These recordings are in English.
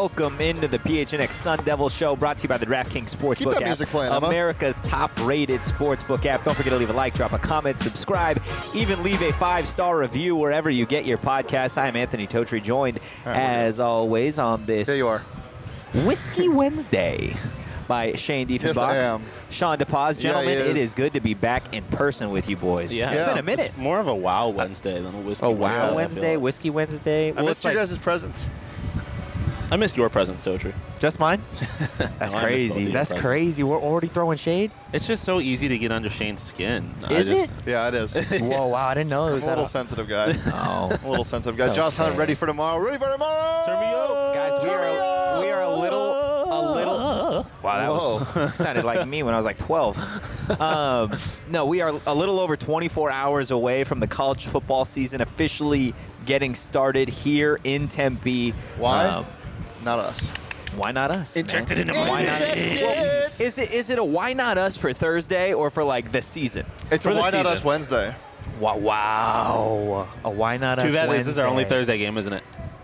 welcome into the PHNX Sun Devil Show, brought to you by the DraftKings Sportsbook Keep that app, music playing, Emma. America's top-rated sportsbook app. Don't forget to leave a like, drop a comment, subscribe, even leave a 5-star review wherever you get your podcasts. I'm Anthony Totri, joined, as always, on this There you are. Whiskey Wednesday by Shane Diefenbach. Yes, I am. Sean DePaz. Gentlemen, he is. it is good to be back in person with you boys. Yeah. It's been a minute. It's more of a Wow Wednesday than a Whiskey Oh, Wednesday. Wow I feel Wednesday, like. Whiskey Wednesday. I Well, missed it's your like guys' presents. I missed your presents, Totri. just mine? That's No, I missed both crazy. of your That's presents. crazy. We're already throwing shade? It's just so easy to get under Shane's skin. Is it? Yeah, it is. I'm Whoa, wow. I didn't know it a was little that. sensitive guy. Oh. A little sensitive guy. So Josh Hunt, sad. ready for tomorrow. Ready for tomorrow. Turn me up. Guys, we are a little. Wow, that Whoa. was sounded like me when I was like 12. No, we are a little over 24 hours away from the college football season officially getting started here in Tempe. Why? Not us. Why not us? Injected man? into my Why not? Injected. Well, is it a why not us for Thursday or for like the season? It's For a the Why Not season. Us Wednesday. Wow. A why not us Too bad Wednesday. this is our only Thursday game, isn't it?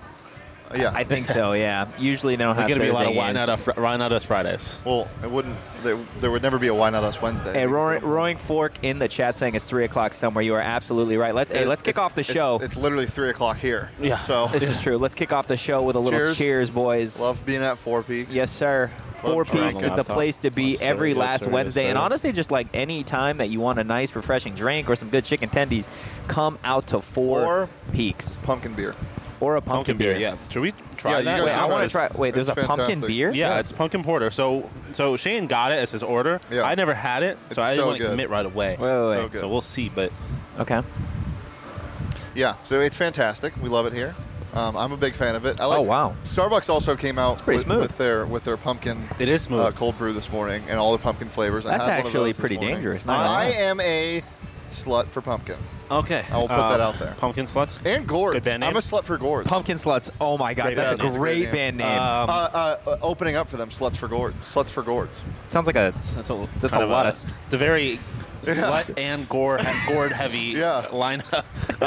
Yeah. I think so, yeah. Usually they don't There's have going to be a lot Thursday of games. Why Not Us Fridays. Well, it wouldn't. There would never be a Why Not Us Wednesday. Hey, Roaring Fork in the chat saying it's 3 o'clock somewhere. You are absolutely right. Let's kick off the show. It's literally 3 o'clock here. Yeah. So This is true. Let's kick off the show with a little cheers, boys. love being at Four Peaks. Yes, sir. Four Love Peaks drinking. is the place to be Yes, sir. every Yes, last sir. Wednesday. Yes, And sir. honestly, just like any time that you want a nice, refreshing drink or some good chicken tendies, come out to Four Or- Peaks. Pumpkin beer. Or a pumpkin beer. Yeah. Should we try Yeah, you that? guys Wait, should I try want it. to try. Wait, there's a It's pumpkin fantastic. beer? Yeah, it's pumpkin porter. So Shane got it as his order. Yeah. I never had it, It's so I didn't so want to good. commit right away. Wait. So good. So we'll see, but Okay. Yeah, so it's fantastic. We love it here. I'm a big fan of it. I like, Oh, wow. Starbucks also came out pretty smooth. with their pumpkin it is smooth. cold brew this morning and all the pumpkin flavors. I That's had one of actually those this pretty morning. dangerous. Not gonna I lie. am a slut for pumpkin Okay. I will put that out there. Pumpkin sluts. and gourds. Good band I'm name. a slut for gourds. Pumpkin Sluts. Oh, my God. Great That's band a name. great band name. Opening up for them, sluts for gourds. Sluts for gourds. Sounds like a. That's a That's a lot of. It's a very slut and gourd heavy Yeah. lineup.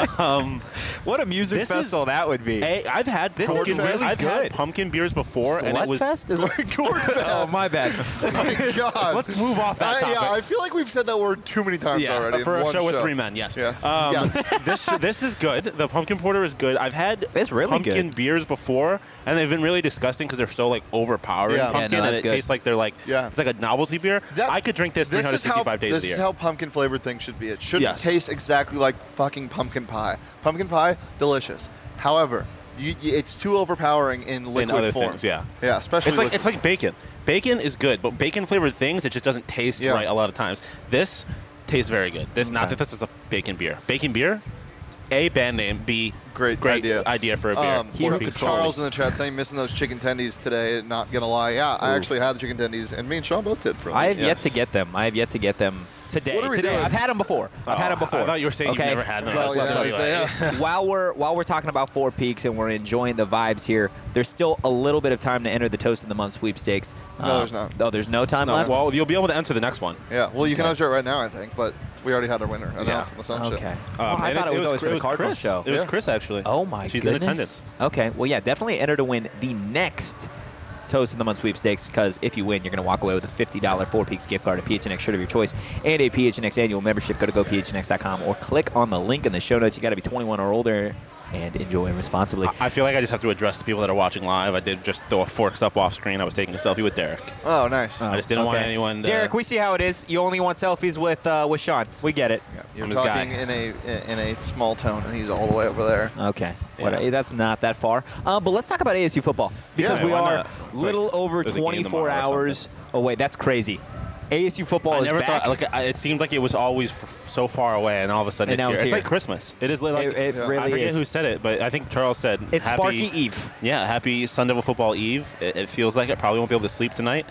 What a music This is- festival that would be. Hey, I've had This is pumpkin. really I've good. had pumpkin beers before, and it was. Slutfest? Is it- Gourd fest. Oh, my bad. Oh my God. Let's move off that topic. Yeah, I feel like we've said that word too many times already. for in a one show with 3 men, yes. Yes. This this is good. The pumpkin porter is good. I've had It's really pumpkin good. beers before, and they've been really disgusting because they're so like overpowering Yeah. Yeah, pumpkin, no, and that's it good. tastes like they're like Yeah. it's like a novelty beer. That- I could drink this This is how 365 days of this the is year. how pumpkin flavored things should be. It shouldn't Yes. taste exactly like fucking pumpkin pie. Pumpkin pie, delicious. However, it's too overpowering in liquid other form. things, yeah. Yeah, especially It's like liquid. it's like bacon. Bacon is good, but bacon flavored things it just doesn't taste Yeah. right a lot of times. This tastes very good. This not that this is a bacon beer. Bacon beer, A, band name, B, Great idea. for a beer. Charles Peaks Charles in Rollies. the chat saying missing those chicken tendies today. Not gonna lie, yeah, I actually had the chicken tendies, and me and Sean both did for I have yet Yes. to get them. I have yet to get them today. What are we Today. doing? I've had them before. I've had them before. I thought you were saying Okay. you've never had them. Well, That's what I yeah, thought you were like. while we're talking about Four Peaks and we're enjoying the vibes here, there's still a little bit of time to enter the Toast of the Month sweepstakes. No, there's not. Oh, there's no time No, left? well, you'll be able to enter the next one. Yeah, well, you can enter it right now, I think, but we already had our winner announced on the Sun Show. Okay. Well, I And thought it was always for the was Cardinals Chris. show. It was Yeah. Chris actually. Oh, my She's goodness. in attendance. Okay. Well, yeah, definitely enter to win the next Toast of the Month sweepstakes, because if you win, you're going to walk away with a $50 Four Peaks gift card, a PHNX shirt of your choice, and a PHNX annual membership. Go to gophnx.com or click on the link in the show notes. You got to be 21 or older and enjoy responsibly. I feel like I just have to address the people that are watching live. I did just throw a forks up off screen. I was taking a selfie with Derek. Oh, nice. I just didn't want anyone to... Derek, we see how it is. You only want selfies with Sean. We get it. Yeah, you're I'm his guy. talking in a small tone, and he's all the way over there. Okay. Yeah. That's not that far. But let's talk about ASU football, because Yeah, we why are not? It's little like over there's a game 24 tomorrow or hours away. That's crazy. ASU football I is never back. thought. It seemed like it was always so far away, and all of a sudden And now it's it's here. here. It's like Christmas. It is like It Yeah. really I forget is. who said it, but I think Charles said It's happy, Sparky Eve. Yeah, happy Sun Devil Football Eve. It feels like it. Probably won't be able to sleep tonight.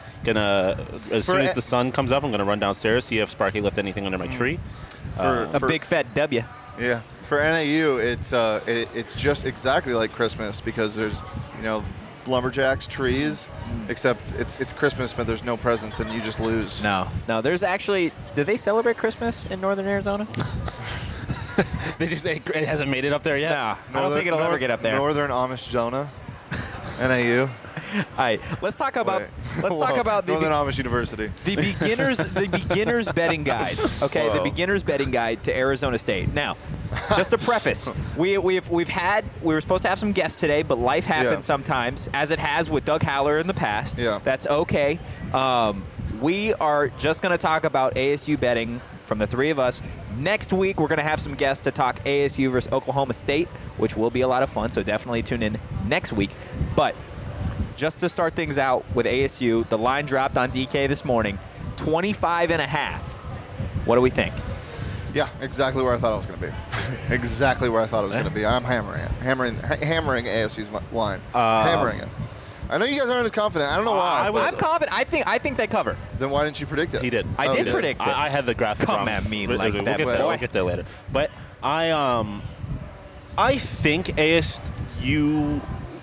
As soon as the sun comes up, I'm gonna run downstairs, see if Sparky left anything under my tree. A big fat W. Yeah, for NAU, it's just exactly like Christmas because there's lumberjacks, trees, except it's Christmas, but there's no presents and you just lose. No. There's actually. Do they celebrate Christmas in Northern Arizona? It hasn't made it up there yet. I don't think it'll ever get up there. Northern Amish Jonah, NAU. right, let's talk about Northern Amish University. the beginners betting guide. Okay, Whoa. the beginners betting guide to Arizona State. Now, just to preface, we were supposed to have some guests today, but life happens sometimes, as it has with Doug Haller in the past. Yeah. That's okay. We are just going to talk about ASU betting from the three of us. Next week, we're going to have some guests to talk ASU versus Oklahoma State, which will be a lot of fun, so definitely tune in next week. But just to start things out with ASU, the line dropped on DK this morning, 25.5. What do we think? Yeah, exactly where I thought it was going to be. Exactly where I thought it was going to be. I'm hammering it. Hammering ASU's line. Hammering it. I know you guys aren't as confident. I don't know why. I'm confident. I think they cover. Then why didn't you predict it? He did. I did predict it. I had the graphic. Come wrong. at me We'll like that, boy. We'll get there later. But I think ASU.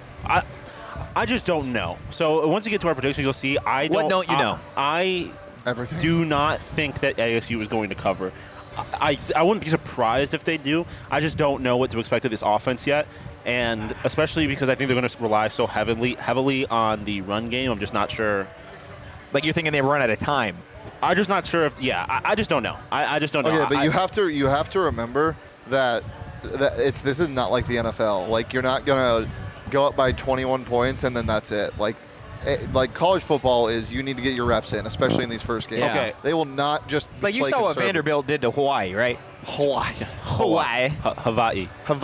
I just don't know. So once you get to our predictions, you'll see. What don't you know? I Everything. do not think that ASU is going to cover. I wouldn't be surprised if they do. I just don't know what to expect of this offense yet. And especially because I think they're going to rely so heavily on the run game. I'm just not sure. Like you're thinking they run out of time. I'm just not sure if. Yeah, I just don't know. I just don't know. Okay, but you have to remember that this is not like the NFL. Like you're not gonna go up by 21 points and then that's it. Like college football is you need to get your reps in, especially in these first games. Yeah. Okay. They will not just Like you play saw what conservative. Vanderbilt did to Hawaii, right? Hawaii. Hawaii.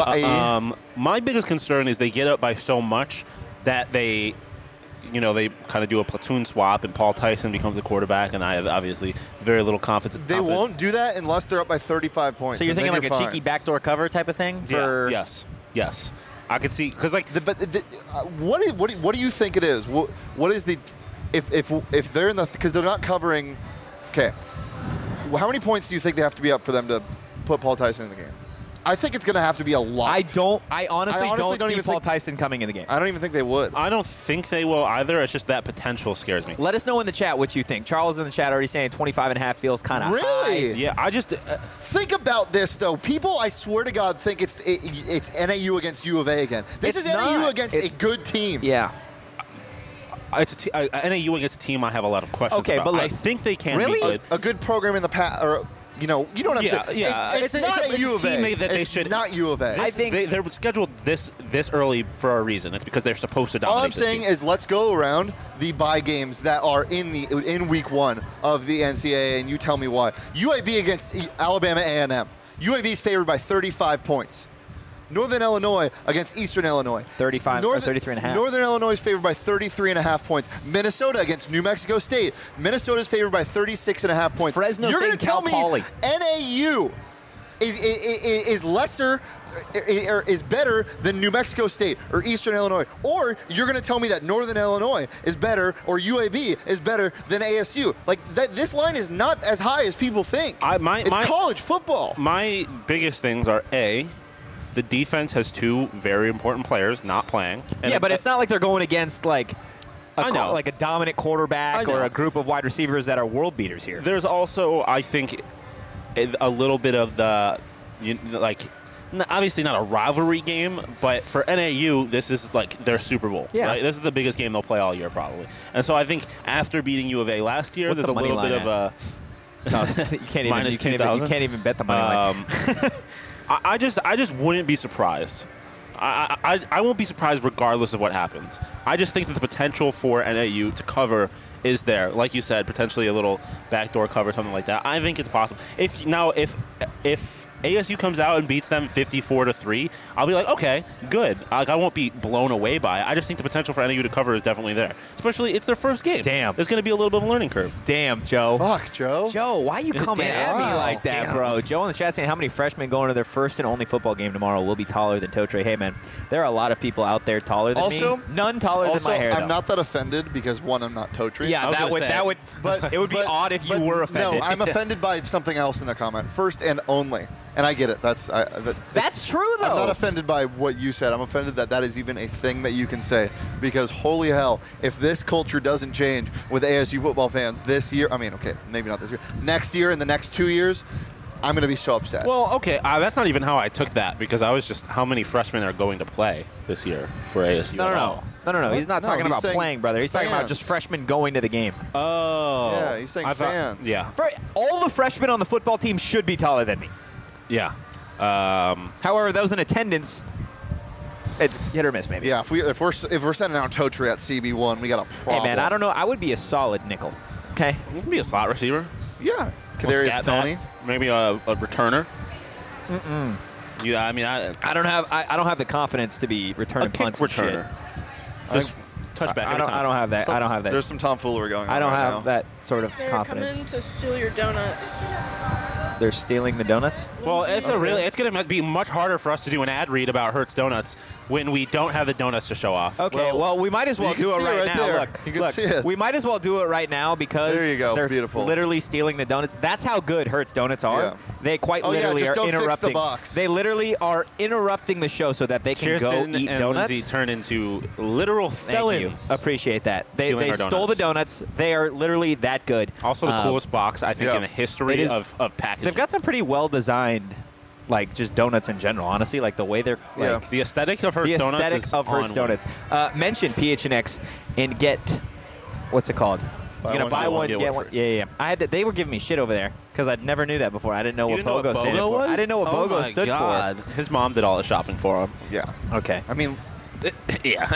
My biggest concern is they get up by so much that they kind of do a platoon swap and Paul Tyson becomes the quarterback, and I have obviously very little confidence. They won't do that unless they're up by 35 points. So you're and thinking then like a you're cheeky fine. backdoor cover type of thing? For Yes. I could see because like What do you think it is? What is the if they're in the because they're not covering? Okay, how many points do you think they have to be up for them to put Paul Tyson in the game? I think it's going to have to be a lot. I honestly don't see even Paul think- Tyson coming in the game. I don't even think they would. I don't think they will either. It's just that potential scares me. Let us know in the chat what you think. Charles in the chat already saying 25.5 feels kind of Really? Yeah, I just Think about this though. People, I swear to God, think it's NAU against U of A again. This It's is NAU not. against It's- a good team. Yeah. it's NAU against a team I have a lot of questions Okay, about. but look, I think they can really? be good. A good program in the past, or you know what I'm Yeah, saying. yeah. It's It's not a a U of A. team that they It's should- not U of A. I think- they're scheduled this early for a reason. It's because they're supposed to dominate. All I'm this saying team. is let's go around the bye games that are in week 1 of the NCAA, and you tell me why. UAB against Alabama A&M. UAB is favored by 35 points. Northern Illinois against Eastern Illinois. 35 or 33.5. Northern Illinois is favored by 33.5 points. Minnesota against New Mexico State. Minnesota is favored by 36.5 points. Fresno You're State gonna and tell Cal me Poly. NAU is lesser or is better than New Mexico State or Eastern Illinois, or you're going to tell me that Northern Illinois is better or UAB is better than ASU. Like this line is not as high as people think. It's college football. My biggest things are the defense has two very important players not playing. And Yeah, but it's not like they're going against like I know. like a dominant quarterback I or know. a group of wide receivers that are world beaters here. There's also, I think, a little bit of the, obviously not a rivalry game, but for NAU, this is like their Super Bowl. Yeah. Right? This is the biggest game they'll play all year, probably. And so I think after beating U of A last year, What's there's the a money little bit line of a. No, you can't even. Minus You can't even, 2,000? you can't even bet the money line. I just wouldn't be surprised. I won't be surprised regardless of what happens. I just think that the potential for NAU to cover is there. Like you said, potentially a little backdoor cover, something like that. I think it's possible. If ASU comes out and beats them 54-3, I'll be like, okay, good. Like, I won't be blown away by it. I just think the potential for NAU to cover is definitely there. Especially, it's their first game. Damn. There's going to be a little bit of a learning curve. Damn, Joe. Fuck, Joe. Joe, why are you coming Damn. at me Wow. like that, Damn. bro? Joe in the chat saying how many freshmen going to their first and only football game tomorrow will be taller than Totre. Hey, man, there are a lot of people out there taller than Also- me. None taller Also, than my hair, I'm though. not that offended because one, I'm not Totri. Yeah, I was that gonna would say. But it would be but- odd if you but were offended. No, I'm offended by something else in the comment. First and only, and I get it. That's true, though. I'm not offended by what you said. I'm offended that is even a thing that you can say. Because holy hell, if this culture doesn't change with ASU football fans this year, I mean, okay, maybe not this year, next year and the next 2 years, I'm going to be so upset. Well, okay, that's not even how I took that because I was just how many freshmen are going to play this year for ASU. No. He's not No, talking he's about saying playing, brother. He's talking about fans. just freshmen going to the game. Oh. Yeah, he's saying I thought- fans. Yeah. For all the freshmen on the football team should be taller than me. Yeah. However, those in attendance, it's hit or miss, maybe. Yeah, if we're sending out Totri at CB1, we got a problem. Hey, man, I don't know. I would be a solid nickel. Okay. You can be a slot receiver. Yeah, Well, Kadarius scat Toney. back, maybe a returner. Yeah, I mean, I don't have the confidence to be returning a kick punts and shit. returner. Just touchback. I don't have that. I don't have that. There's some tomfoolery going on. I don't right have now. that sort of They're confidence. coming to steal your donuts. They're stealing the donuts. Well, it's Okay. it's going to be much harder for us to do an ad read about Hertz Donuts when we don't have the donuts to show off. Okay, well, we might as well you can do it see it right right now. there. Look, You can look, see it. we might as well do it right now because There you go. they're Beautiful. literally stealing the donuts. That's how good Hertz Donuts are. Yeah. They quite Oh, yeah, literally just are don't fix the interrupting. box. They literally are interrupting the show so that they can Kirsten go eat and donuts. Lindsay turn into literal Thank felons. you. Appreciate that. They Stealing our stole the donuts. They are literally that good. Also, the coolest box I think yeah. in the history It is- of packaging. They've got some pretty well designed, like just donuts in general. Honestly, like the way they're like. Yeah. the aesthetic of Hertz The Donuts aesthetic is of Hertz on Donuts. Mention PHNX and get, what's it called? Buy You're gonna one, buy get one, one, get get one. one Yeah. I had to, they were giving me shit over there because I never knew that before. I didn't know You what didn't know BOGO what stood BOGO for. was? I didn't know what Oh BOGO my stood God. His mom did all the shopping for him. Yeah. for. Okay. I mean, Yeah.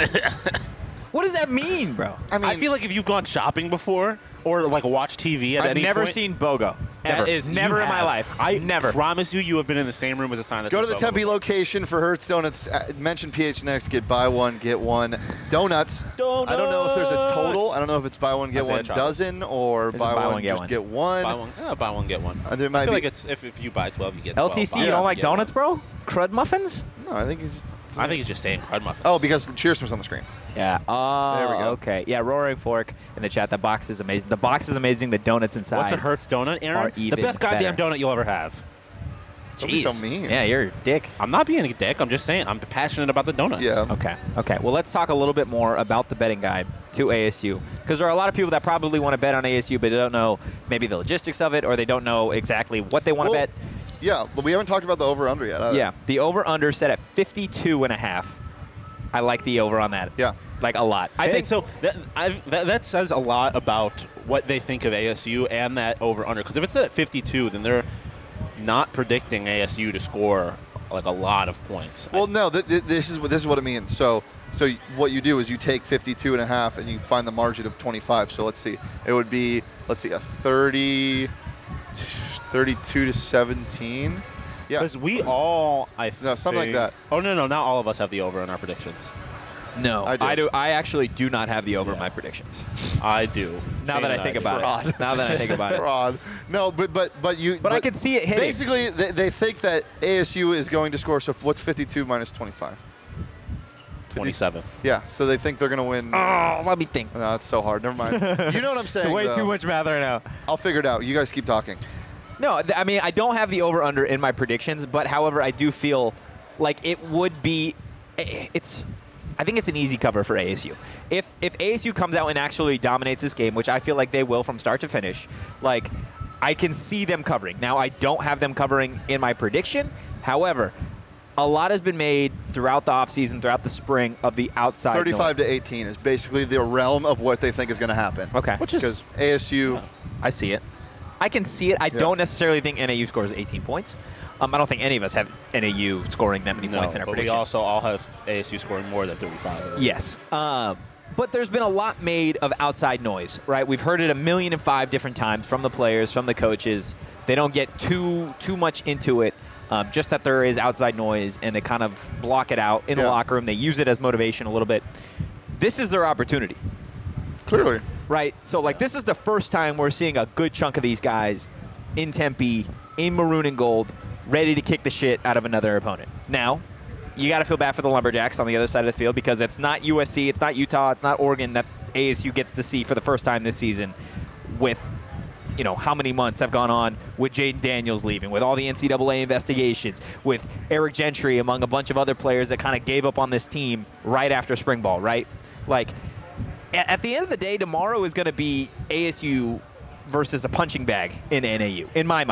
What does that mean, bro? I feel like if you've gone shopping before or like watched TV at I've any never point, seen BOGO. that Ever. is never you in my have. life. I never. promise you have been in the same room as a sign that go to says the BOGO Tempe before. location for Hertz Donuts. Mention PHNX. Get buy one, get one. Donuts. I don't know if there's a total. I don't know if it's buy one, get I'd say one a chocolate. dozen or It's buy one, get just one. get one. Buy one, get one. There I might feel be. like it's if you buy 12, you get 12. LTC, Buy you one, don't like get one. donuts, bro? Crud muffins? No, I think he's. I think it's just saying crud muffins. Oh, because the cheers was on the screen. Yeah. Oh, There we go. okay. Yeah, Roaring Fork in the chat. The box is amazing. The box is amazing. The donuts inside. What's a Hertz donut, are Aaron? The even best goddamn better. donut you'll ever have. Don't be so Jeez. mean. Yeah, you're a dick. I'm not being a dick. I'm just saying I'm passionate about the donuts. Yeah. Okay. Well, let's talk a little bit more about the betting guide to ASU because there are a lot of people that probably want to bet on ASU, but they don't know maybe the logistics of it or they don't know exactly what they want to Well, bet. Yeah, but we haven't talked about the over/under yet. Either. Yeah, the over/under set at 52.5. I like the over on that. Yeah. Like a lot. I I think think so. That says a lot about what they think of ASU and that over under. Because if it's at 52, then they're not predicting ASU to score like a lot of points. Well, no, this is what it means. So what you do is you take 52.5 and you find the margin of 25. So let's see, it would be a 32 to 17. Yeah. Because we all, No, something like think- that. Oh no, not all of us have the over in our predictions. no, I do. I actually do not have the over in Yeah. my predictions. I do. Now Shane that I and think do. about Fraud. it. Now that I think about it. Fraud. No, but you. But I can see it hitting. Basically, they think that ASU is going to score. So what's 52 minus 25? 27. Yeah. So they think they're going to win. Oh, let me think. No, it's so hard. Never mind. You know what I'm saying? It's way though. too much math right now. I'll figure it out. You guys keep talking. No, I mean, I don't have the over-under in my predictions, but however, I do feel like it would be, I think it's an easy cover for ASU. If ASU comes out and actually dominates this game, which I feel like they will from start to finish, like, I can see them covering. Now, I don't have them covering in my prediction. However, a lot has been made throughout the offseason, throughout the spring, of the outside 35 to 18 is basically the realm of what they think is going to happen. Okay. Which is Because ASU. I see it. I can see it. I don't necessarily think NAU scores 18 points. I don't think any of us have NAU scoring that many no, points in our but we prediction. also all have ASU scoring more than 35. Yes. But there's been a lot made of outside noise, right? We've heard it 1,000,005 different times from the players, from the coaches. They don't get too much into it, just that there is outside noise, and they kind of block it out in the Yeah. locker room. They use it as motivation a little bit. This is their opportunity, Clearly. right? So, like, this is the first time we're seeing a good chunk of these guys in Tempe, in maroon and gold, ready to kick the shit out of another opponent. Now, you got to feel bad for the Lumberjacks on the other side of the field because it's not USC, it's not Utah, it's not Oregon that ASU gets to see for the first time this season with, you know, how many months have gone on with Jaden Daniels leaving, with all the NCAA investigations, with Eric Gentry, among a bunch of other players that kind of gave up on this team right after spring ball, right? Like, at the end of the day, tomorrow is going to be ASU versus a punching bag in NAU, in my mind.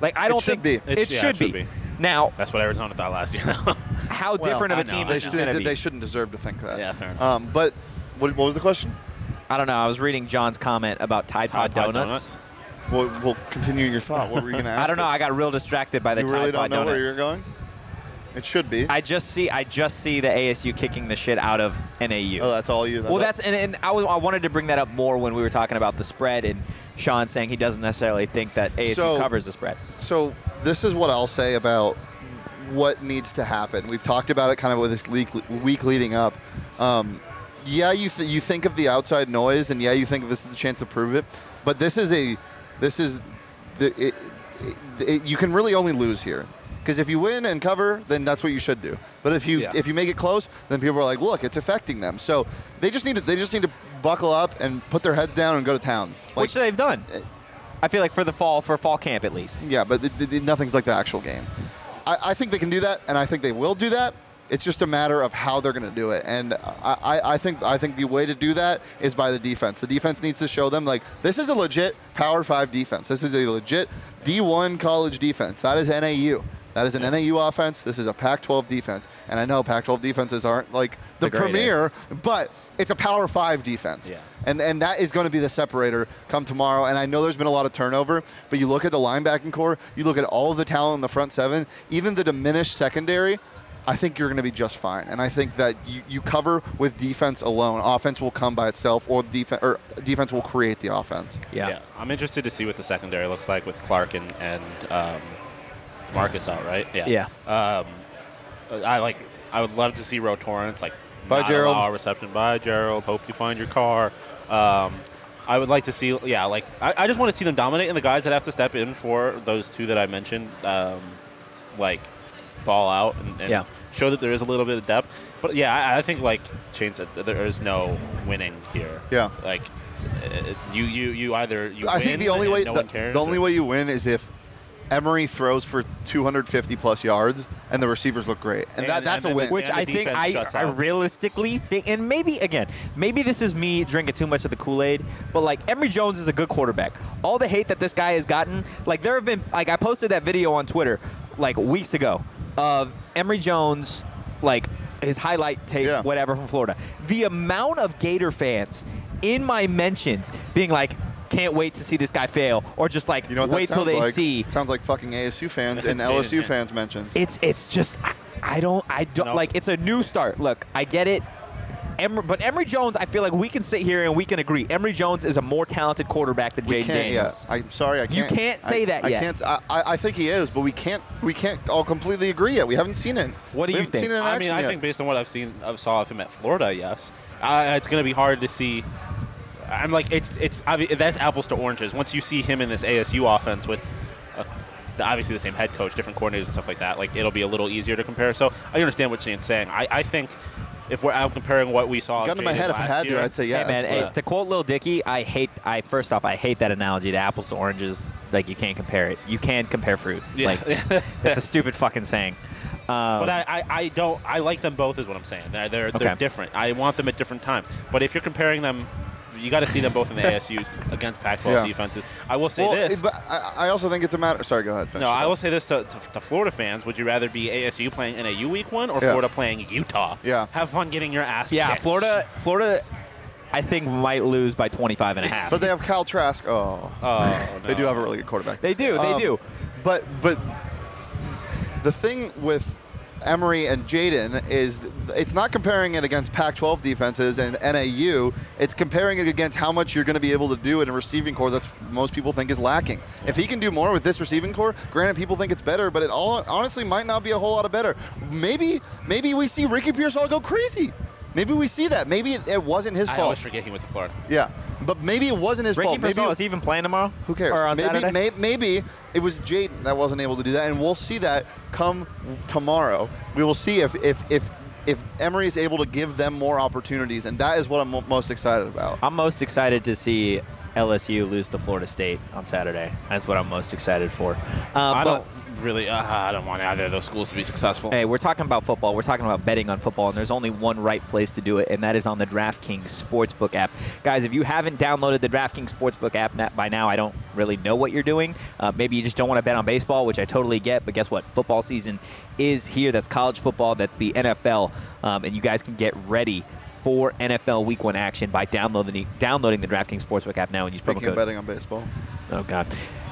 Like I don't should think be. it should be. Now, That's what Arizona thought last year. how Well, different of I a team know. this is going to be? They shouldn't deserve to think that. Yeah, fair enough. But what was the question? I don't know. I was reading John's comment about Tide Pod Donuts. We'll continue your thought. What were you going to ask? I don't know. us? I got real distracted by the You Tide really Pod don't know where donut. you're going? It should be. I just see the ASU kicking the shit out of NAU. Oh, that's all you. Well, and I wanted to bring that up more when we were talking about the spread and Sean saying he doesn't necessarily think that ASU covers the spread. So this is what I'll say about what needs to happen. We've talked about it kind of with this week leading up. Yeah, you think of the outside noise, and yeah, you think this is the chance to prove it. But you can really only lose here. Because if you win and cover, then that's what you should do. But if you make it close, then people are like, look, it's affecting them. So they just need to buckle up and put their heads down and go to town. Like, Which they've done. I feel like for fall camp at least. yeah, but nothing's like the actual game. I think they can do that, and I think they will do that. It's just a matter of how they're going to do it. And I think the way to do that is by the defense. The defense needs to show them, like, this is a legit Power 5 defense. This is a legit D1 college defense. That is NAU. That is an NAU offense. This is a Pac-12 defense. And I know Pac-12 defenses aren't like the premier, but it's a Power 5 defense. Yeah. And that is going to be the separator come tomorrow. And I know there's been a lot of turnover, but you look at the linebacking core, you look at all of the talent in the front seven, even the diminished secondary, I think you're going to be just fine. And I think that you cover with defense alone. Offense will come by itself, or defense will create the offense. Yeah. I'm interested to see what the secondary looks like with Clark and Marcus out, right? Yeah. I would love to see Ro Torrance Bye, not Gerald. allow a reception. Bye, Gerald. Hope you find your car. I would like to see, I just want to see them dominate, and the guys that have to step in for those two that I mentioned, ball out and show that there is a little bit of depth. But yeah, I think like Shane said, there is no winning here. Yeah. You either win. I think the only way no one cares, the only way you win is if Emory throws for 250 plus yards and the receivers look great, and that's a win. Which And I the think defense shuts I up. realistically think, and maybe this is me drinking too much of the Kool-Aid, but like Emory Jones is a good quarterback. All the hate that this guy has gotten, like there have been, like I posted that video on Twitter like weeks ago of Emory Jones, like his highlight tape, whatever from Florida. The amount of Gator fans in my mentions being like, can't wait to see this guy fail, or just like wait till they see. It sounds like fucking ASU fans and LSU fans mentions. It's just I don't like, it's a new start. Look, I get it. But Emory Jones, I feel like we can sit here and we can agree. Emory Jones is a more talented quarterback than Jaden Daniels. I'm sorry, I can't. You can't say that yet. I can't. I think he is, but we can't all completely agree yet. We haven't seen it. What do you think? Seen it in I action mean, I yet. think based on what I saw of him at Florida, yes. It's going to be hard to see. I'm like, that's apples to oranges. Once you see him in this ASU offense with obviously the same head coach, different coordinators and stuff like that, like it'll be a little easier to compare. So I understand what Shane's saying. I think if we're out comparing what we saw, gun to my head, if I had to, I'd say yes. Hey man, to quote Lil Dicky, I hate that analogy, the apples to oranges. Like you can't compare it. You can compare fruit. Yeah. Like it's a stupid fucking saying. But I don't. I like them both, is what I'm saying. They're different. I want them at different times. But if you're comparing them, you got to see them both in the ASUs against Pac-12 defenses. I will say this. But I also think it's a matter. Sorry, go ahead. Finish No, it I up. will say this to Florida fans. Would you rather be ASU playing NAU week 1 or Florida playing Utah? Yeah. Have fun getting your ass Yeah, kicked. Florida, I think might lose by 25.5. But they have Kyle Trask. Oh, They no. do have a really good quarterback. They do. But the thing with Emory and Jaden is it's not comparing it against Pac-12 defenses and NAU. It's comparing it against how much you're going to be able to do in a receiving core that most people think is lacking. If he can do more with this receiving core, granted people think it's better, but it all honestly might not be a whole lot of better. Maybe we see Ricky Pearsall go crazy. Maybe we see that. Maybe it wasn't his I fault. always forget he went to Florida. Yeah, but maybe it wasn't his Ricky fault. Maybe Pearsall is even playing tomorrow? who cares? Or on Saturday? Maybe it was Jaden that wasn't able to do that, and we'll see that come tomorrow. We will see if Emory is able to give them more opportunities, and that is what I'm most excited about. I'm most excited to see LSU lose to Florida State on Saturday. That's what I'm most excited for. I but- don't really. I don't want either of those schools to be successful. Hey, we're talking about football. We're talking about betting on football, and there's only one right place to do it, and that is on the DraftKings Sportsbook app. Guys, if you haven't downloaded the DraftKings Sportsbook app by now, I don't really know what you're doing. Maybe you just don't want to bet on baseball, which I totally get, but guess what? Football season is here. That's college football. That's the NFL, and you guys can get ready for NFL Week 1 action by downloading the DraftKings Sportsbook app now and use promo Speaking of code. betting on baseball. Oh, God.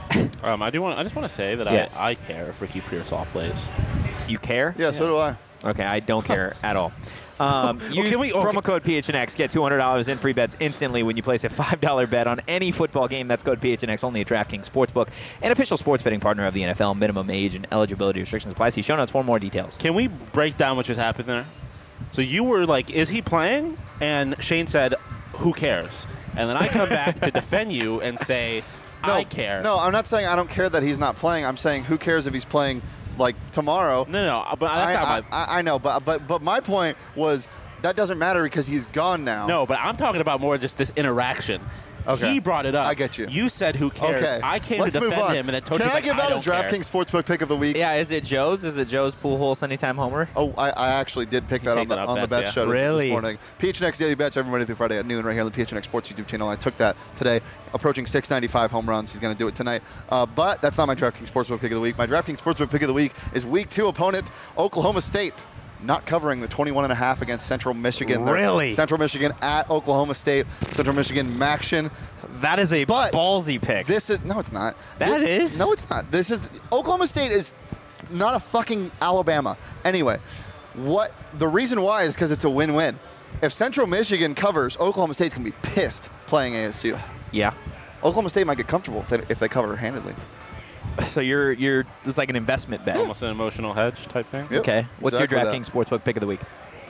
I just want to say that Yeah. I care if Ricky Pearsall plays. You care? Yeah, so do I. Okay, I don't care at all. Use promo code PHNX. Get $200 in free bets instantly when you place a $5 bet on any football game. That's code PHNX only at DraftKings Sportsbook, an official sports betting partner of the NFL. Minimum age and eligibility restrictions apply. See show notes for more details. Can we break down what just happened there? So you were like, "Is he playing?" And Shane said, "Who cares?" And then I come back to defend you and say, "I care." No, I'm not saying I don't care that he's not playing. I'm saying who cares if he's playing like tomorrow. No, but that's not my. I know, but my point was that doesn't matter because he's gone now. No, but I'm talking about more just this interaction. Okay. He brought it up. I get you. You said, "Who cares?" Okay. I came Let's to move defend on. him, and then Tony's Can I like, give "I out a don't care." DraftKings Sportsbook pick of the week? Yeah, is it Joe's? Is it Joe's Pujols anytime homer? Oh, I actually did pick that take on the that up, on the bets, bet yeah. show Really? this morning. PHNX Daily Bets every Monday through Friday at noon right here on the PHNX Sports YouTube channel. I took that today, approaching 695 home runs. He's going to do it tonight. But that's not my DraftKings Sportsbook pick of the week. My DraftKings Sportsbook pick of the week is Week 2 opponent Oklahoma State. Not covering the 21.5 against Central Michigan. Really? Central Michigan at Oklahoma State. Central Michigan Maction. That is a But ballsy pick. This is no, it's not. That is? No, it's not. This is Oklahoma State is not a fucking Alabama. Anyway, what the reason why is because it's a win-win. If Central Michigan covers, Oklahoma State's gonna be pissed playing ASU. Yeah. Oklahoma State might get comfortable if they cover handedly. So you're it's like an investment bet. Almost an emotional hedge type thing. Yep, Okay. What's exactly your that. DraftKings Sportsbook pick of the week?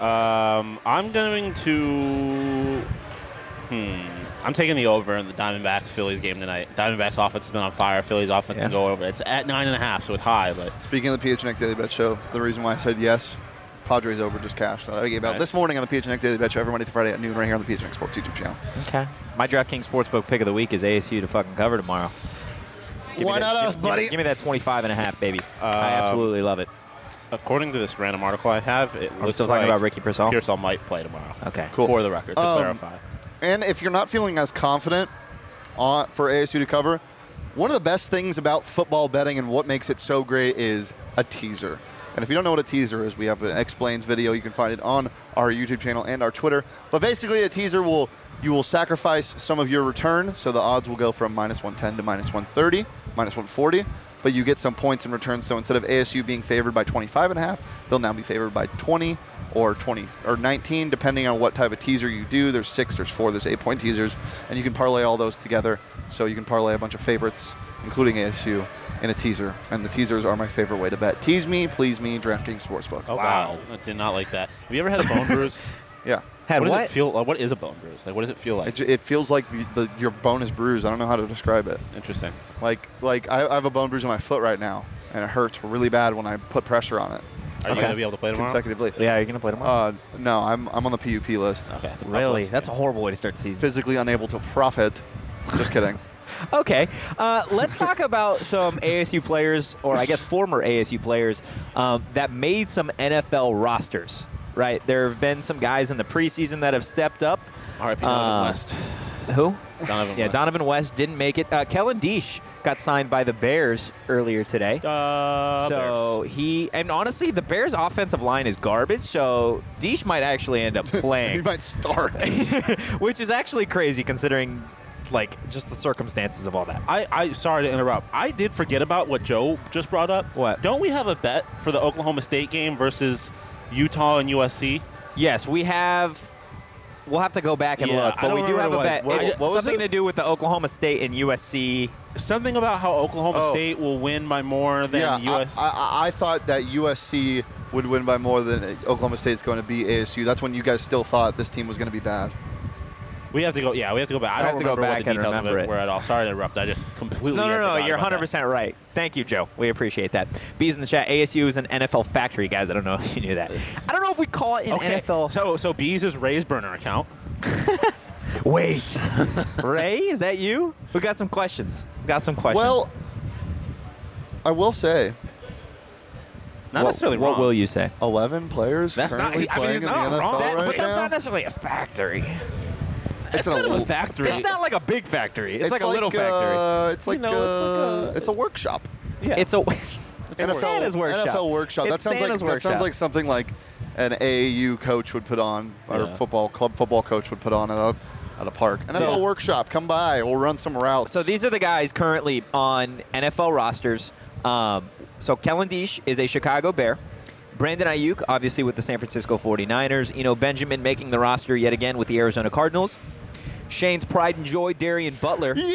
I'm going to. I'm taking the over in the Diamondbacks Phillies game tonight. Diamondbacks offense has been on fire. Phillies offense Yeah. can go over. It's at 9.5, so it's high, but Speaking of the PHNX Daily Bet Show, the reason why I said yes, Padres over just cashed that I gave out Nice. this morning on the PHNX Daily Bet Show every Monday through Friday at noon right here on the PHNX Sports YouTube channel. Okay. My DraftKings Sportsbook pick of the week is ASU to fucking cover tomorrow. Give Why me that, not us, give- buddy? Give me that 25.5, baby. I absolutely love it. according to this random article I have, it Are we looks still like talking about Ricky Pearsall? Pearsall might play tomorrow. Okay. Cool. For the record, to clarify. And if you're not feeling as confident for ASU to cover, one of the best things about football betting and what makes it so great is a teaser. And if you don't know what a teaser is, we have an explains video. You can find it on our YouTube channel and our Twitter. But basically, a teaser you will sacrifice some of your return, so the odds will go from -110 to -130, -140. But you get some points in return. So instead of ASU being favored by 25.5, they'll now be favored by 20 or 20 or 19, depending on what type of teaser you do. There's 6, there's 4, there's 8-point teasers, and you can parlay all those together. So you can parlay a bunch of favorites, including ASU, in a teaser. And the teasers are my favorite way to bet. Tease me, please me, DraftKings Sportsbook. Oh, wow. I did not like that. Have you ever had a bone bruise? Yeah. Had What does what? it feel like? What is a bone bruise? Like, what does it feel like? It feels like your bone is bruised. I don't know how to describe it. Interesting. Like I have a bone bruise on my foot right now, and it hurts really bad when I put pressure on it Are you Okay. going to be able to play tomorrow? consecutively. Yeah, you're going to play tomorrow? No, I'm on the PUP list. Okay. the Really? Buffaloes That's a game. horrible way to start the season. Physically unable to profit. Just kidding. Okay, let's talk about some ASU players, or I guess former ASU players, that made some NFL rosters, right? There have been some guys in the preseason that have stepped up. R.I.P. Donovan West. Who? Donovan Yeah, West. Donovan West didn't make it. Kellen Deesh got signed by the Bears earlier today. So and honestly, the Bears' offensive line is garbage, so Deesh might actually end up He playing, might start. which is actually crazy considering, like, just the circumstances of all that. I sorry to interrupt. I did forget about what Joe just brought up. What? Don't we have a bet for the Oklahoma State game versus Utah and USC? Yes, we have. We'll have to go back and Yeah, look, I but don't we do have remember a what it bet. was. It's What was something it? to do with the Oklahoma State and USC. Something about how Oklahoma Oh. State will win by more than Yeah, US. I thought that USC would win by more than Oklahoma State's going to be ASU. That's when you guys still thought this team was going to be bad. we have to go. Yeah, we have to go back. I have don't to go remember back what the and details of remember it it. were at all. Sorry to interrupt. I just completely. No, forgot you're about that. 100% right. Thank you, Joe. We appreciate that. B's in the chat. ASU is an NFL factory, guys. I don't know if you knew that. I don't know if we call it an Okay. NFL. So Bees is Ray's burner account. Wait. Ray, is that you? We got some questions. Well, I will say, Not necessarily wrong. What will you say? 11 players That's not- currently I mean, playing it's in the not NFL wrong. right But that's now. not necessarily a factory. It's kind of a factory. It's not like a big factory. It's like a little factory. It's like You know, it's like it's a workshop. Yeah. It's a NFL, Santa's workshop. NFL workshop. It's That Santa's workshop. sounds like something like an AAU coach would put on, or Yeah. club football coach would put on at a park. NFL workshop. Come by. We'll run some routes. So these are the guys currently on NFL rosters. So Kellen Diesch is a Chicago Bear. Brandon Ayuk, obviously with the San Francisco 49ers. Eno Benjamin making the roster yet again with the Arizona Cardinals. Shane's pride and joy, Darian Butler, is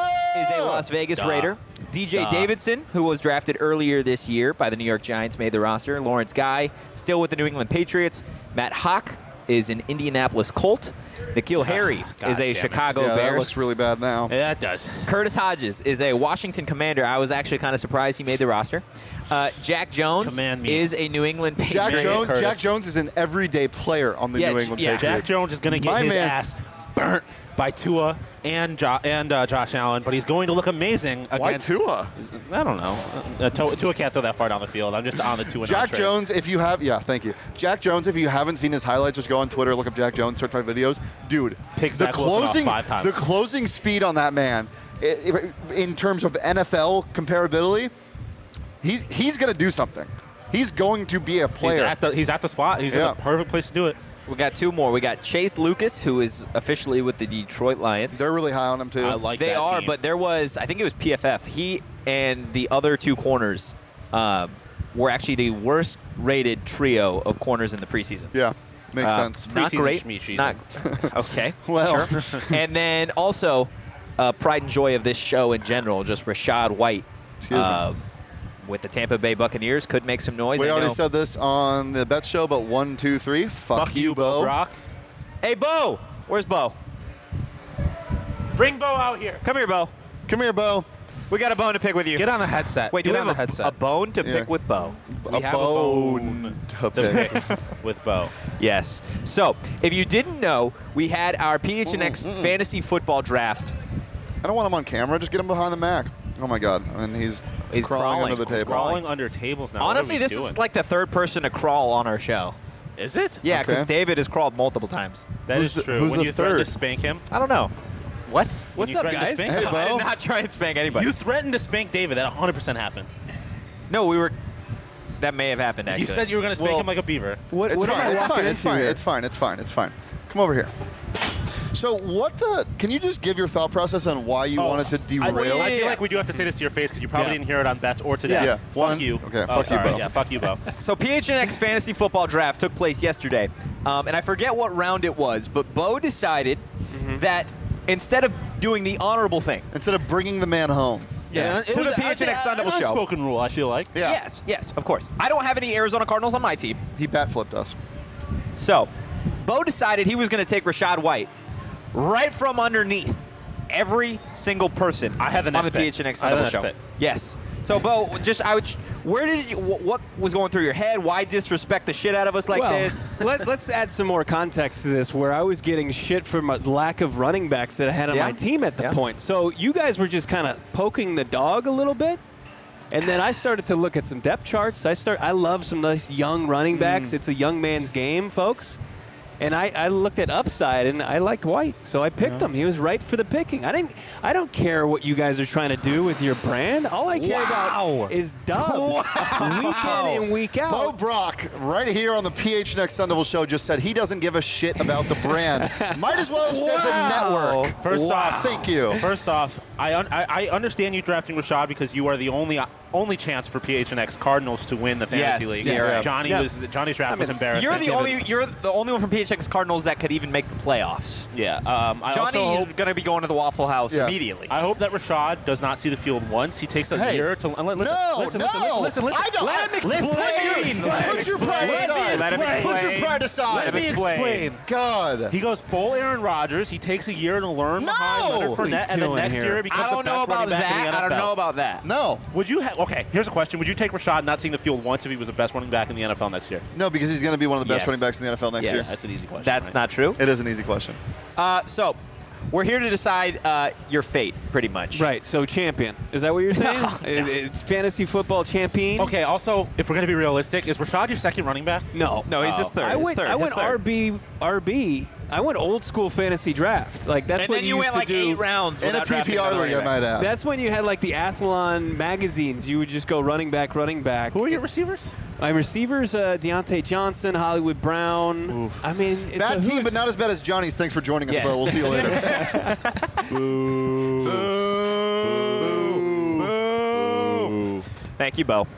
a Las Vegas Raider. DJ Davidson, who was drafted earlier this year by the New York Giants, made the roster. Lawrence Guy, still with the New England Patriots. Matt Hawk is an Indianapolis Colt. N'Keal Harry is a Chicago yeah, that Bears. looks really bad now. Yeah, it does. Curtis Hodges is a Washington Commander. I was actually kind of surprised he made the roster. Jack Jones Command me. is a New England Patriot. Jack Jones is an everyday player on the Yeah, New England yeah. Patriots. Jack Jones is going to get My his man- ass burnt by Tua and Josh Allen, but he's going to look amazing against. Why Tua? I don't know. Tua can't throw that far down the field. I'm just on the Tua. Jack Jones, if you have, thank you. Jack Jones, if you haven't seen his highlights, just go on Twitter, look up Jack Jones, search my videos. Dude, Pick the Zach Wilson off closing, 5 times. the closing speed on that man, in terms of NFL comparability, he's going to do something. He's going to be a player. He's at the spot. He's in Yeah. the perfect place to do it. We got two more. We got Chase Lucas, who is officially with the Detroit Lions. They're really high on him too. I like They that are, team. but there was, I think it was PFF. He and the other two corners were actually the worst rated trio of corners in the preseason. Yeah, makes sense. Not Preseason great. schmeeseason. Not okay. Well. sure. And then also, pride and joy of this show in general, just Rashad White. Excuse me. With the Tampa Bay Buccaneers, could make some noise. We I already know. said this on the bet show, but 1, 2, 3. Fuck you, Bo. Brock. Hey, Bo. Where's Bo? Bring Bo out here. Come here, Bo. Come here, Bo. We got a bone to pick with you. Get on the headset. Wait, Get do we on have the headset. a bone to Yeah. pick with Bo? We have a bone to to pick. pick with Bo. Yes. So, if you didn't know, we had our PHNX fantasy football draft. I don't want him on camera. Just get him behind the Mac. Oh my God! And he's He's crawling. under the He's table. Crawling under tables now. What Honestly, are we this doing? is like the third person to crawl on our show. Is it? Yeah, because Okay. David has crawled multiple times. That Who's is the- true. who's When the you threatened third? to spank him. I don't know. What? When you threatened to spank Hey, him. Bo. I did not try and spank anybody. You threatened to spank David. That 100% happened. No, we were. That may have happened, actually. You said you were going to spank Well- him like a beaver. What It's am I fine. It's walking fine. into It's fine. here? It's fine. It's fine. It's fine. Come over here. So what the? Can you just give your thought process on why you wanted to derail? I feel like we do have to say this to your face because you probably Yeah. didn't hear it on bets or today. Yeah. Fuck One. you. Okay, Oh, fuck you, sorry. Bo. Yeah, fuck you, Bo. So PHNX Fantasy Football Draft took place yesterday, and I forget what round it was, but Bo decided that instead of doing the honorable thing, Instead of bringing the man home. yes, it to was the PHNX Sun Devil an Show. unspoken rule, I feel like. Yeah. Yes, of course. I don't have any Arizona Cardinals on my team, He bat flipped us. so Bo decided he was going to take Rashad White right from underneath every single person I had the on next the pick. PHNX I Sun had the Devil next Show. pick. Yes. So Bo, where did you? What was going through your head? Why disrespect the shit out of us like well, this? let's add some more context to this, where I was getting shit from a lack of running backs that I had on Yeah. my team at the Yeah. point. So you guys were just kind of poking the dog a little bit. And then I started to look at some depth charts. I love some nice young running backs. It's a young man's game, folks. And I looked at upside, and I liked White, so I picked him. He was right for the picking. I don't care what you guys are trying to do with your brand. All I care about is dubs, week in and week out. Bo Brock, right here on the PHNX Sun Devil Show, just said he doesn't give a shit about the brand. Might as well have said the network. First off, Thank you. First off, I understand you drafting Rashad because you are the only chance for PHNX Cardinals to win the fantasy Yes, league. you're right. Johnny's draft was embarrassing. You're the only one from PHX Cardinals that could even make the playoffs. Yeah. I Johnny's also hope, going to be going to the Waffle House Yeah. immediately. I hope that Rashad does not see the field once. He takes a Hey, year to listen. no, listen. I don't. Let him Listen, explain. Put your pride aside. Let him explain. Put your pride aside. Let me explain. God. He goes full Aaron Rodgers. He takes a year to learn behind No! Leonard What are you Fournette, and then doing next here? year he becomes I don't the know best running about back in the that. NFL. I don't know about that. No. Would you? Okay, here's a question. Would you take Rashad not seeing the field once if he was the best running back in the NFL next year? No, because he's going to be one of the best Yes. running backs in the NFL next Yes. year. That's an easy question. That's right? not true. It is an easy question. So we're here to decide your fate, pretty much. Right. So champion. Is that what you're saying? No. It's fantasy football champion. Okay. Also, if we're gonna be realistic, is Rashad your second running back? No. No, he's just third. I went. His third. I went His third. RB. I went old school fantasy draft. Like that's And what then you used went to like do. 8 rounds. In a without drafting PPR another league, I running back. might add. That's when you had like the Athlon magazines. You would just go running back. Who are your receivers? My receivers, Deontay Johnson, Hollywood Brown. Oof. I mean, it's Bad a team, who's- but not as bad as Johnny's. Thanks for joining us, Yes. bro. We'll see you later. Thank you, Bo.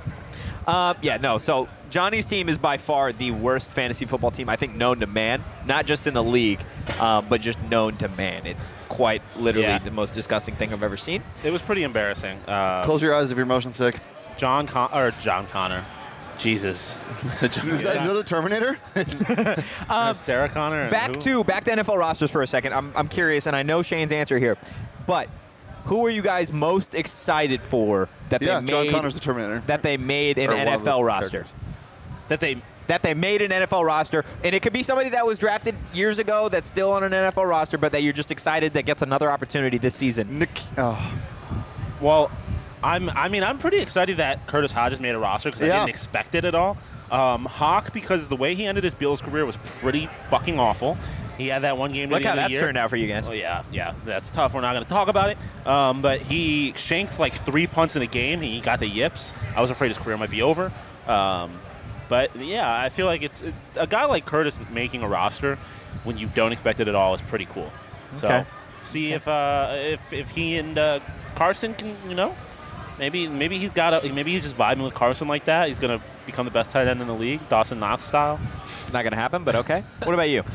So Johnny's team is by far the worst fantasy football team I think known to man, not just in the league, but just known to man. It's quite literally the most disgusting thing I've ever seen. It was pretty embarrassing. Close your eyes if you're motion sick. John Connor. Jesus. Is that the Terminator? Sarah Connor. And Back who? to NFL rosters for a second. I'm curious, and I know Shane's answer here, but who are you guys most excited for that Yeah, they John made Connor's the Terminator. that they made an Or one of the NFL roster? characters. that they Made an NFL roster, and it could be somebody that was drafted years ago that's still on an NFL roster, but that you're just excited that gets another opportunity this season. Nick. Oh. Well, I'm pretty excited that Curtis Hodges made a roster because I Yeah. didn't expect it at all. Hawk, because the way he ended his Bills career was pretty fucking awful. He had that one game. Look near how the end of that's the year. turned out for you guys. Oh yeah, that's tough. We're not going to talk about it. But he shanked like 3 punts in a game. He got the yips. I was afraid his career might be over. But yeah, I feel like it's a guy like Curtis making a roster when you don't expect it at all is pretty cool. So Okay. see if he and Carson can, maybe he's just vibing with Carson like that. He's gonna become the best tight end in the league, Dawson Knox style. Not going to happen, but okay. What about you?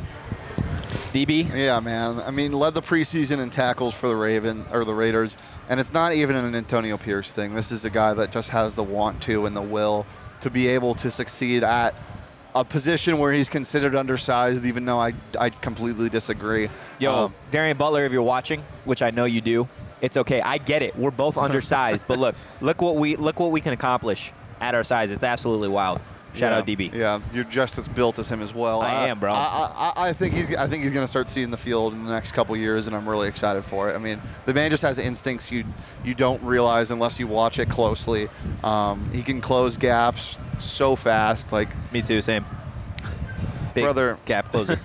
DB? Yeah, man. I mean, led the preseason in tackles for the Raiders, and it's not even an Antonio Pierce thing. This is a guy that just has the want to and the will to be able to succeed at a position where he's considered undersized, even though I completely disagree. Yo, Darian Butler, if you're watching, which I know you do, it's okay. I get it. We're both undersized, but look what we can accomplish at our size. It's absolutely wild. Shout out DB. Yeah, you're just as built as him as well. I am, bro. I think he's going to start seeing the field in the next couple years, and I'm really excited for it. I mean, the man just has instincts you don't realize unless you watch it closely. He can close gaps so fast. Like, Me too, same. Big Brother. gap closer.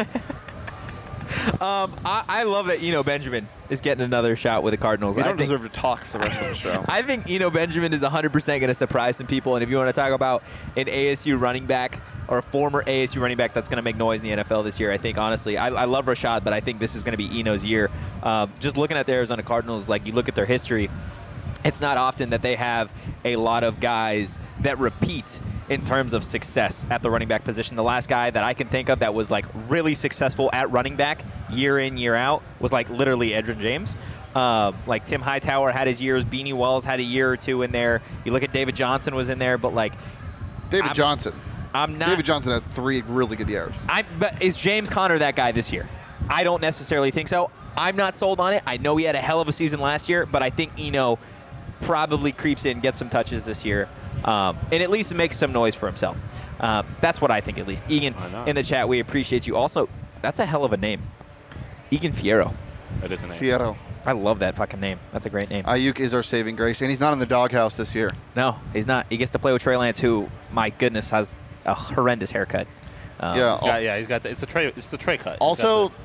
I love that Eno Benjamin is getting another shot with the Cardinals. you I don't think- deserve to talk for the rest of the show. I think Eno Benjamin is 100% going to surprise some people. And if you want to talk about an ASU running back or a former ASU running back that's going to make noise in the NFL this year, I think, honestly, I love Rashad, but I think this is going to be Eno's year. Just looking at the Arizona Cardinals, like you look at their history, it's not often that they have a lot of guys that repeat in terms of success at the running back position. The last guy that I can think of that was like really successful at running back year in, year out was like literally Edgerrin James. Like Tim Hightower had his years. Beanie Wells had a year or two in there. You look at David Johnson was in there, but like David Johnson. I'm not. David Johnson had 3 really good years. But is James Conner that guy this year? I don't necessarily think so. I'm not sold on it. I know he had a hell of a season last year, but I think Eno probably creeps in, gets some touches this year, and at least makes some noise for himself. That's what I think, at least. Egan, Why not? in the chat, we appreciate you. Also, that's a hell of a name. Egan Fierro. That is a name. Fierro. I love that fucking name. That's a great name. Ayuk is our saving grace, and he's not in the doghouse this year. No, he's not. He gets to play with Trey Lance, who, my goodness, has a horrendous haircut. He's got it's the tray cut. He's Also, got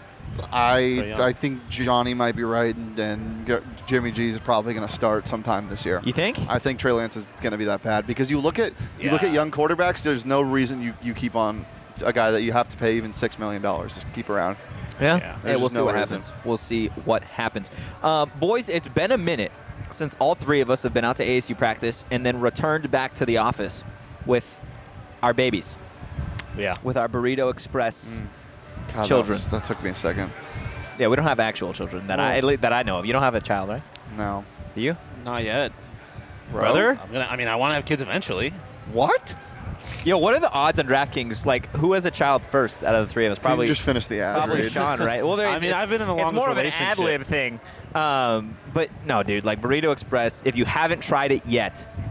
Trae Young. I think Johnny might be right, and Jimmy G is probably going to start sometime this year. You think? I think Trey Lance is going to be that bad because you look at young quarterbacks. There's no reason you keep on a guy that you have to pay even $6 million to keep around. Yeah. Yeah. Hey, we'll There's see no what reason. happens. We'll see what happens. Boys, it's been a minute since all three of us have been out to ASU practice and then returned back to the office with our babies, yeah. with our Burrito Express. God, Children. That took me a second. Yeah, we don't have actual children that I know of. You don't have a child, right? No. Do you? Not yet. Brother? I want to have kids eventually. What? Yo, what are the odds on DraftKings? Like, who has a child first out of the three of us? Probably You just finished the ad. Probably read. Sean, right? Well, I've been in the It's longest more of an relationship. ad lib thing. But no, dude, like Burrito Express, if you haven't tried it yet,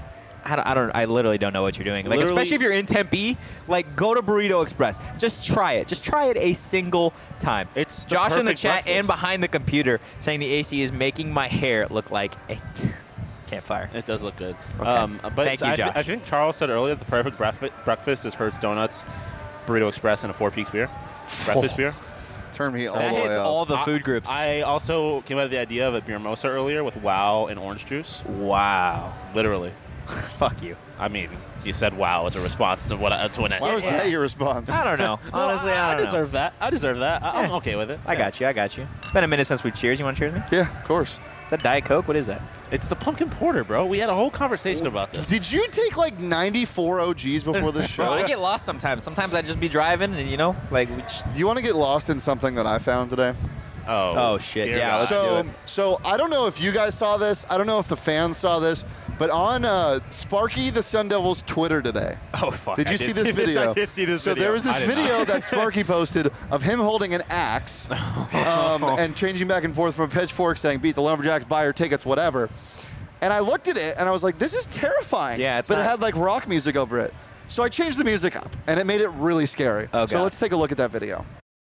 I literally don't know what you're doing. Like, Literally- especially if you're in Tempe, like, go to Burrito Express. Just try it. Just try it a single time. It's the Josh in the perfect chat breakfast. and behind the computer saying the AC is making my hair look like a campfire. It does look good. Okay. But Thank you, Josh. I think Charles said earlier the perfect breakfast is Hertz Donuts, Burrito Express, and a Four Peaks beer. Breakfast beer. Turn me all That the way hits up. all the food groups. I also came up with the idea of a beer mosa earlier with wow and orange juice. Wow. Literally. Fuck you. I mean, you said wow as a response to what to an Why was that your response? I don't know. Honestly, I don't know. deserve that. I deserve that. I'm Yeah. okay with it. I got you. It's been a minute since we cheers. You want to cheers me? Yeah, of course. That Diet Coke? What is that? It's the pumpkin porter, bro. We had a whole conversation about this. Did you take like 94 OGs before the show? Well, I get lost sometimes. Sometimes I just be driving and, like, we just, Do you want to get lost in something that I found today? Oh, shit. dear Yeah, God. let's do So, it. so I don't know if you guys saw this. I don't know if the fans saw this, but on Sparky the Sun Devils Twitter today. Oh, fuck. Did you see this video? I did see this so video. there was this I did video not. that Sparky posted of him holding an axe and changing back and forth from a pitchfork saying, beat the Lumberjacks, buy your tickets, whatever. And I looked at it and I was like, this is terrifying. Yeah, it's But it not- had like rock music over it. So I changed the music up and it made it really scary. Oh, so God. let's take a look at that video.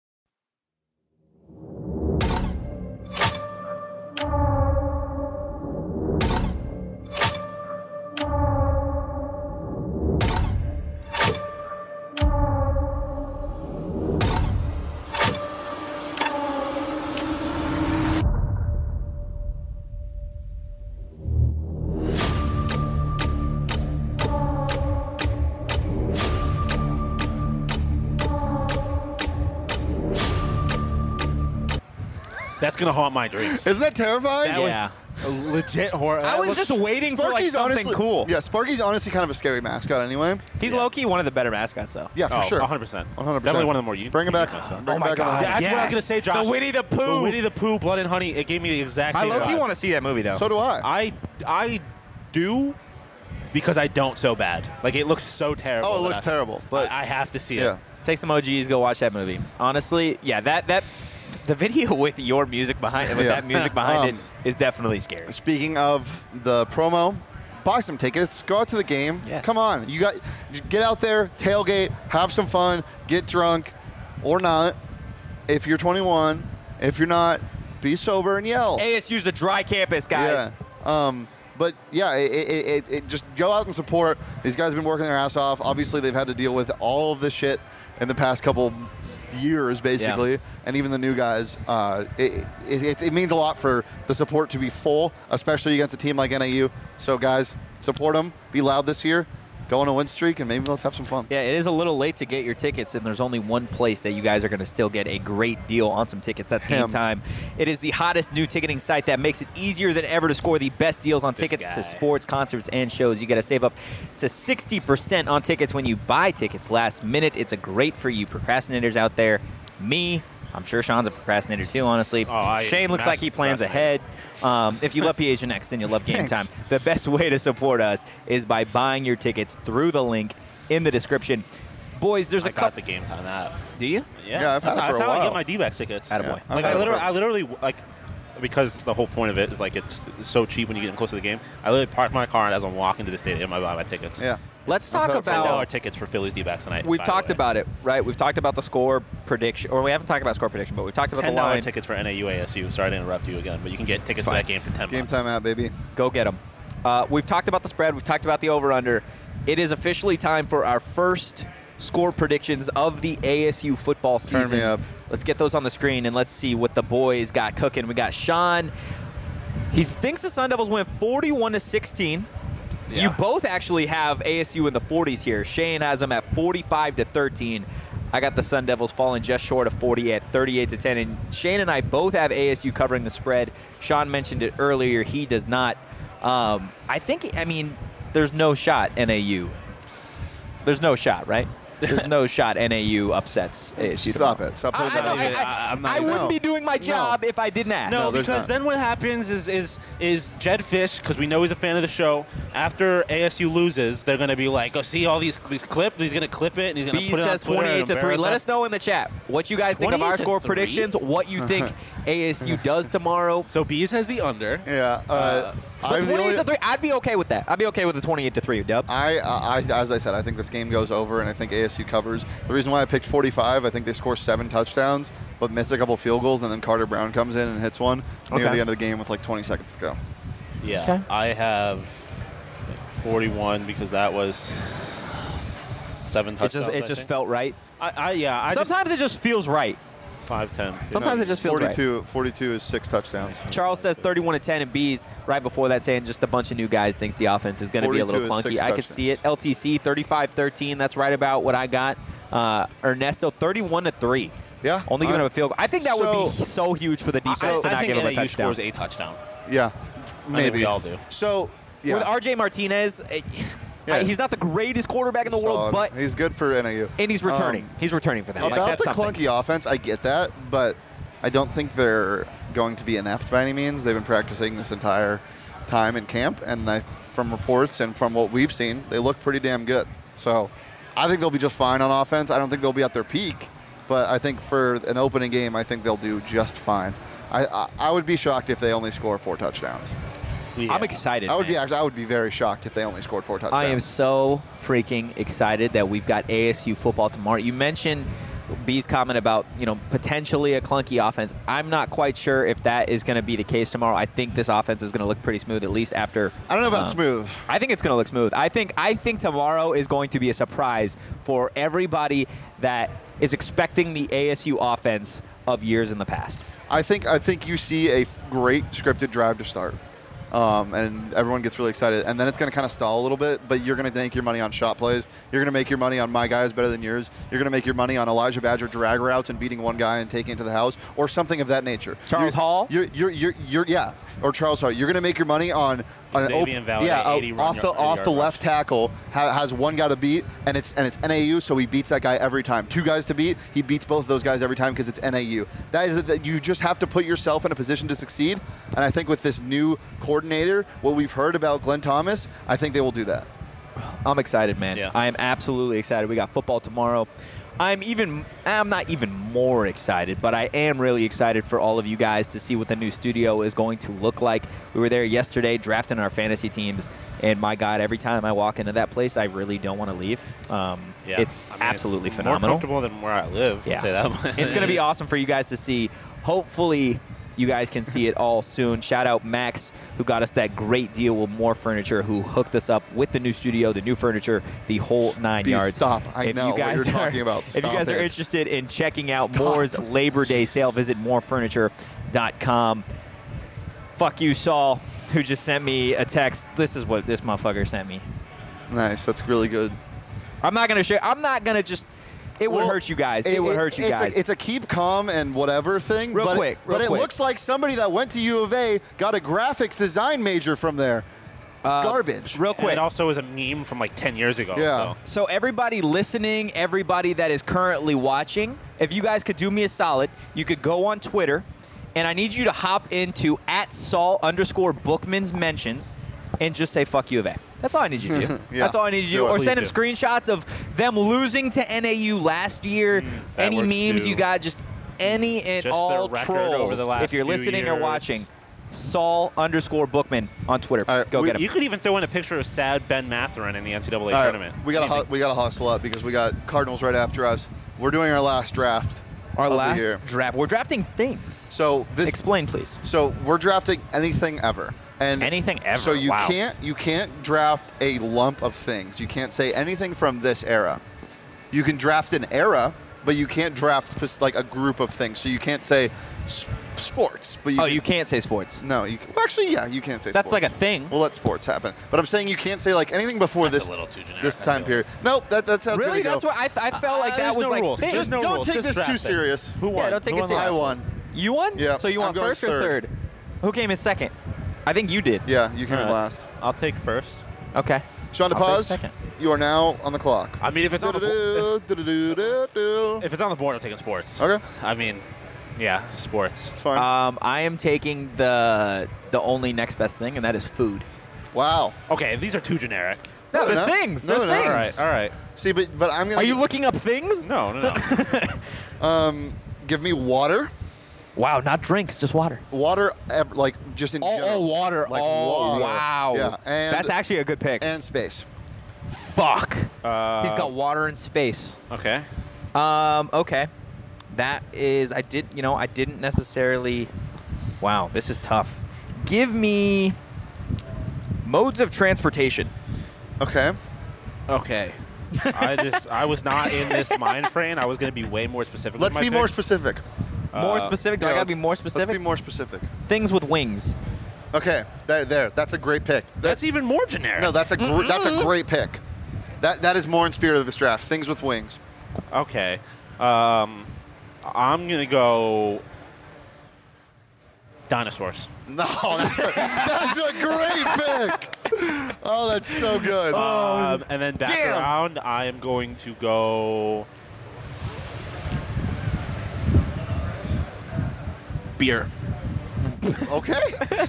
That's gonna haunt my dreams. Isn't that terrifying? That Yeah. was a legit horror. I was just waiting for, like, something honestly, cool. Yeah, Sparky's honestly kind of a scary mascot anyway. He's Yeah. low-key one of the better mascots, though. Yeah, for sure. 100%. 100%. Definitely one of the more unique. Bring it back. mascots. Bring it back on. That's what I was gonna say, Josh. The Winnie the Pooh. The Winnie the Pooh, Blood and Honey. It gave me the exact I same. low-key vibe. want to see that movie, though. So do I. I do because I don't so bad. Like it looks so terrible. Oh, it that looks I- terrible. But I have to see yeah. it. Take some OGs, go watch that movie. Honestly, yeah, that the video with your music behind with Yeah. that music behind it is definitely scary. Speaking of the promo, buy some tickets. Go out to the game. Yes. Come on, you get out there, tailgate, have some fun, get drunk, or not. If you're 21, if you're not, be sober and yell. ASU's a dry campus, guys. Yeah. But yeah, it just go out and support. These guys have been working their ass off. Obviously, they've had to deal with all of this shit in the past couple years, basically, and even the new guys. It means a lot for the support to be full, especially against a team like NAU. So, guys, support them. Be loud this year. Go on a win streak, and maybe let's have some fun. Yeah, it is a little late to get your tickets, and there's only one place that you guys are going to still get a great deal on some tickets. That's Game Him. Time. It is the hottest new ticketing site that makes it easier than ever to score the best deals on This tickets guy. to sports, concerts, and shows. You got to save up to 60% on tickets when you buy tickets last minute. It's a great for you procrastinators out there. Me, I'm sure Sean's a procrastinator too, honestly. I Shane looks like he plans ahead. If you love PHNX, then you'll love Game Thanks. Time. The best way to support us is by buying your tickets through the link in the description. Boys, there's I a got couple. the Game Time app. Do you? Yeah, I've had that's it for that's a how I while. get my D-back tickets. Attaboy. Yeah, Like I've had it I literally like because the whole point of it is like it's so cheap when you get in close to the game. I literally park my car and as I'm walking to the stadium, I buy my tickets. Yeah. Let's I've talk had it for a $10 about. tickets for Phillies D-backs tonight. We've by the talked way. about it, right? We've talked about the score prediction, or we haven't talked about score prediction, but we've talked about the $10 line. tickets for NAU ASU. Sorry to interrupt you again, but you can get tickets to fine. that game for $10. Game Time out, baby. Go get them. We've talked about the spread. We've talked about the over/under. It is officially time for our first score predictions of the ASU football Turn season. me up. Let's get those on the screen and let's see what the boys got cooking. We got Sean. He thinks the Sun Devils win 41-16. Yeah. You both actually have ASU in the 40s here. Shane has them at 45-13. I got the Sun Devils falling just short of 40 at 38-10. And Shane and I both have ASU covering the spread. Sean mentioned it earlier. He does not. I mean, there's no shot NAU. There's no shot, right? There's no shot NAU upsets ASU. Stop tomorrow. it. Stop putting that out there. I'm not I even- wouldn't be doing my No. job if I didn't ask. No, No, there's because not. then what happens is Jed Fish, because we know he's a fan of the show. After ASU loses, they're going to be like, "Oh, see all these clips." He's going to clip it and he's going to B put it on says Twitter and 28-3. embarrass Let us. us know in the chat what you guys think of our score 28-3? predictions, what you think ASU does tomorrow. So Bees has the under. Yeah. But 28-3, I'd be okay with that. I'd be okay with the 28-3, Dub. As I said, I think this game goes over, and I think ASU covers. The reason why I picked 45, I think they score 7 touchdowns, but miss a couple field goals, and then Carter Brown comes in and hits one near the end of the game with like 20 seconds to go. Yeah, Okay. I have 41 because that was 7 touchdowns. It just felt right. Sometimes it just feels right. 5, 10. Sometimes it just feels right. 42 is 6 touchdowns. Charles says 31-10, and B's right before that saying just a bunch of new guys thinks the offense is going to be a little 42 is clunky. 6 I could see it. LTC 35-13. That's right about what I got. Ernesto 31-3. Yeah. Only giving up a field goal. I think that would be so huge for the defense to I not think give him a NAU touchdown. scores a touchdown. Yeah, I maybe. think we all do. So, yeah. With RJ Martinez, Yeah. he's not the greatest quarterback in the world, Solid. but he's good for NAU. and he's returning. He's returning for them. Like, About that's the something. clunky offense, I get that, but I don't think they're going to be inept by any means. They've been practicing this entire time in camp, and from reports and from what we've seen, they look pretty damn good. So I think they'll be just fine on offense. I don't think they'll be at their peak, but I think for an opening game, I think they'll do just fine. I would be shocked if they only score 4 touchdowns. Yeah. I'm excited. I would man. I would be very shocked if they only scored 4 touchdowns. I am so freaking excited that we've got ASU football tomorrow. You mentioned B's comment about, potentially a clunky offense. I'm not quite sure if that is going to be the case tomorrow. I think this offense is going to look pretty smooth, at least after. I don't know about smooth. I think it's going to look smooth. I think tomorrow is going to be a surprise for everybody that is expecting the ASU offense of years in the past. I think you see a great scripted drive to start. And everyone gets really excited. And then it's going to kind of stall a little bit, but you're going to make your money on shot plays. You're going to make your money on my guy is better than yours. You're going to make your money on Elijah Badger drag routes and beating one guy and taking it to the house or something of that nature. Charles Hall? Yeah, or Charles Hall. You're going to make your money on Xavier Valade, 80 off the left tackle has one guy to beat, and it's NAU, so he beats that guy every time. 2 guys to beat, he beats both of those guys every time because it's NAU. That you just have to put yourself in a position to succeed, and I think with this new coordinator, what we've heard about Glenn Thomas, I think they will do that. I'm excited, man. Yeah. I am absolutely excited. We got football tomorrow. I'm not even more excited, but I am really excited for all of you guys to see what the new studio is going to look like. We were there yesterday drafting our fantasy teams, and my God, every time I walk into that place, I really don't want to leave. It's absolutely phenomenal. More comfortable than where I live. Yeah. I'll say that much. It's going to be awesome for you guys to see. Hopefully, you guys can see it all soon. Shout out Max, who got us that great deal with More Furniture, who hooked us up with the new studio, the new furniture, the whole 9 yards. Stop. I know what you're talking about. If you guys are interested in checking out Moore's Labor Day sale, visit morefurniture.com. Fuck you, Saul, who just sent me a text. This is what this motherfucker sent me. Nice. That's really good. I'm not going to share. I'm not going to just. It would hurt you guys. It would hurt you guys. It's a keep calm and whatever thing. Real but quick. It looks like somebody that went to U of A got a graphics design major from there. Garbage. Real And quick. it also was a meme from like 10 years ago. Yeah. So everybody listening, everybody that is currently watching, if you guys could do me a solid, you could go on Twitter, and I need you to hop into @Saul_Bookman's mentions and just say fuck U of A. That's all I need you to do. Yeah. That's all I need you to do. Do it. Or Please send him do. screenshots of them losing to NAU last year. that Any works memes too. you got, just any and Just all their record trolls. over the last If you're few listening or years. watching, Saul_Bookman on Twitter. All right, Go get him. You could even throw in a picture of sad Ben Matherin in the NCAA All right, tournament. we gotta hustle up because we got Cardinals right after us. We're doing our last draft. Our of the last year. draft. We're drafting things. So this. Explain, please. So we're drafting anything ever. And Anything ever. So you Wow. can't draft a lump of things. You can't say anything from this era. You can draft an era, but you can't draft like a group of things. So you can't say sports. But You can't say sports. No, you well, actually, yeah, you can't say That's sports. like a thing. We'll let sports happen. But I'm saying you can't say like anything before That's this a little too generic, this I time feel. period. Nope, that's how it's Really? gonna That's go. what I felt like that There's was no like rules. things. There's no Don't rules. take Just this draft too things. serious. Who won? Yeah, don't take Who it won the serious. I last won. You won? Yeah, So you I'm won going first or third. third? Who came in second? I think you did. Yeah, you came in Alright. last. I'll take first. Okay. Sean I'll take DePaz, second. you are now on the clock. I mean, if it's on the Do-do-do-do-do-do. if it's on the board, I'm taking sports. Okay, I mean, yeah, sports. it's fine. I am taking the only next best thing, and that is food. Wow. Okay, these are too generic. No, they're they're not. things. No, They're they're not. things. All right. See, but I'm gonna. Are you looking up things? No. Give me water. Wow, not drinks, just water. Water, like just in general. Water. Like oh, water. wow. Yeah, and That's actually a good pick. and space. Fuck. He's got water and space. Okay. Okay. That is, I didn't necessarily. Wow, this is tough. Give me modes of transportation. Okay. Okay. I was not in this mind frame. I was going to be way more specific. Let's with be my more pick. specific. More specific? Do I Yeah, gotta be more specific? Let's be more specific. Things with wings. Okay, there. That's a great pick. That's even more generic. No, that's a great pick. That is more in spirit of this draft. Things with wings. Okay. I'm going to go dinosaurs. No, that's a great pick. Oh, that's so good. And then back Damn. around, I am going to go beer. Okay.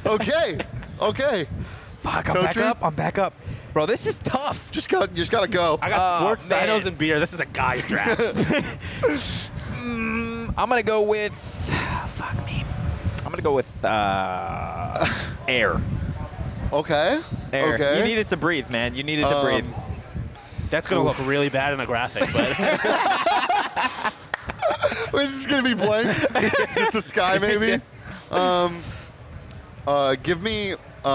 Fuck, Totri? I'm back up. Bro, this is tough. You just gotta go. I got sports, man. dinos, and beer. This is a guy's draft. I'm gonna go with. Fuck me. I'm gonna go with air. Okay. Air. Okay. You needed to breathe, man. You needed to breathe. That's going to look really bad in a graphic, but Wait, is this gonna be blank? Just the sky, maybe. Give me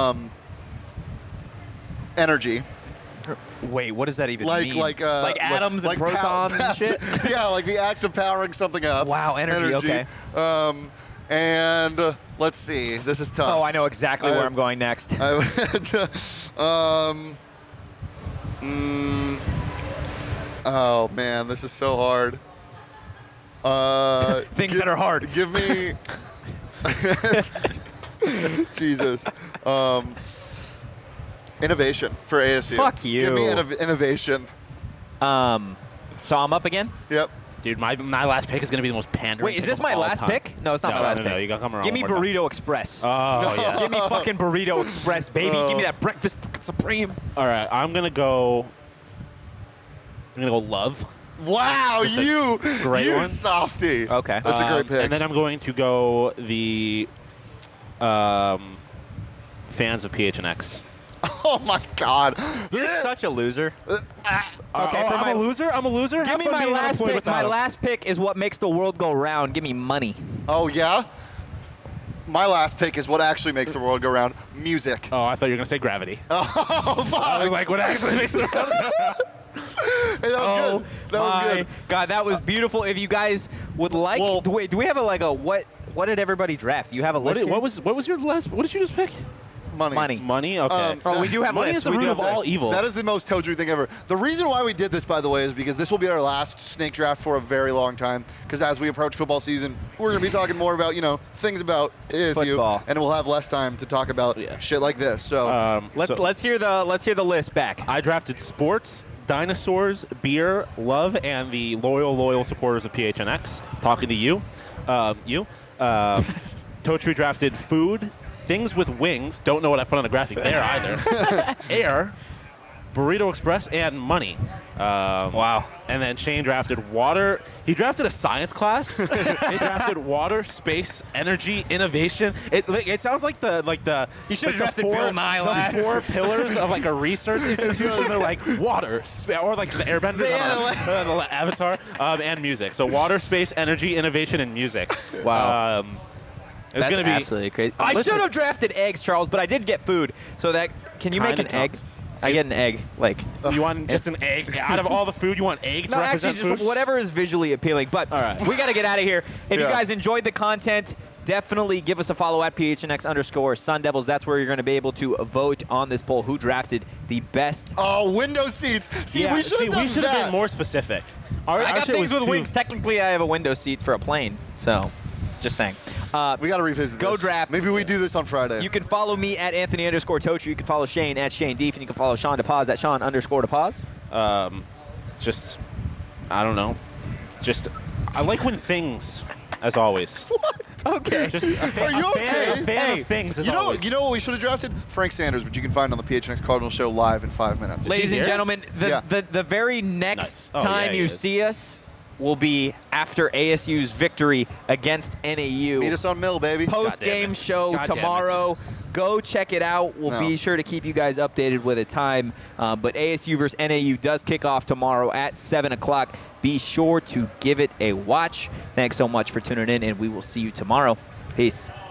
energy. Wait, what does that even Like mean? like atoms like and protons and shit? Yeah, like the act of powering something up. Wow, energy, okay. And let's see. This is tough. Oh, I know exactly where I'm going next. Oh man, this is so hard. Things that are hard. Give me Jesus. Innovation for ASU. Fuck you. Give me innovation. So I'm up again? Yep. dude, my last pick is going to be the most pandering. Wait, is pick this of my all last time. pick? No, it's not No, my last no, pick. no, you gotta come around Give me one more time. Burrito Express. Oh, yeah. Give me fucking Burrito Express, baby. Give me that breakfast fucking supreme. All right, I'm going to go love. Wow, Just a you great one. softy. Okay. That's a great pick. And then I'm going to go the fans of PHNX. Oh my God. You're such a loser. Okay, for I'm a loser. I'm a loser. Give me my last pick. My last pick is what makes the world go round. Give me money. Oh yeah. My last pick is what actually makes the world go round. Music. Oh, I thought you were going to say gravity. Oh fuck. I was like, what actually makes the world go round? Hey, that was good. That was good. God, that was beautiful. If you guys would like, Well- wait, do we have what did everybody draft? You have a list? What was your last? What did you just pick? Money. Money. Okay. Oh, we do have Money lists. is the We do root have of all lists. evil. That is the most Toadry thing ever. The reason why we did this, by the way, is because this will be our last snake draft for a very long time. Because as we approach football season, we're going to be talking more about, things about ASU, Football. and we'll have less time to talk about shit like this. So, Let's hear the list back. I drafted sports, dinosaurs, beer, love, and the loyal supporters of PHNX. Talking to you. Totri drafted food, things with wings. Don't know what I put on the graphic there either. Air, Burrito Express, and money. Wow. And then Shane drafted water. He drafted a science class. He drafted water, space, energy, innovation. It sounds like the You should have like the drafted Bill Nye last. the four pillars of like a research institution. They're like water, or like the Airbender, the Avatar, and music. So water, space, energy, innovation, and music. Wow. It's That's gonna be absolutely crazy. I Listen. should have drafted eggs, Charles, but I did get food. So that can you make Kinda an egg? counts. I get an egg, like. You want just an egg out of all the food? You want eggs? No, to actually, represent just food? whatever is visually appealing. But All right. we got to get out of here. If you Yeah. guys enjoyed the content, definitely give us a follow at PHNX_Sun Devils. That's where you're going to be able to vote on this poll. Who drafted the best? oh, window seats. See, we should have done we that. been more specific. Our I got shit things was with too- wings. Technically, I have a window seat for a plane. So, just saying. We got to revisit Go this. draft. Maybe we do this on Friday. You can follow me at Anthony_Tocher. You can follow Shane at Shane Deef, and you can follow Sean DePaz at Sean_DePaz. Just, I don't know. Just, I like when things, as always. Okay. Just a fan, Are you okay? A fan of things, as you know always. what we should have drafted? Frank Sanders, which you can find on the PHNX Cardinal Show live in 5 minutes. Ladies and here? gentlemen, Yeah. the very next Nice. Oh, time yeah, he you is. see us, will be after ASU's victory against NAU. Meet us on Mill, baby. Post-game show God damn it. tomorrow. Go check it out. We'll No. be sure to keep you guys updated with a time. But ASU versus NAU does kick off tomorrow at 7 o'clock. Be sure to give it a watch. Thanks so much for tuning in, and we will see you tomorrow. Peace.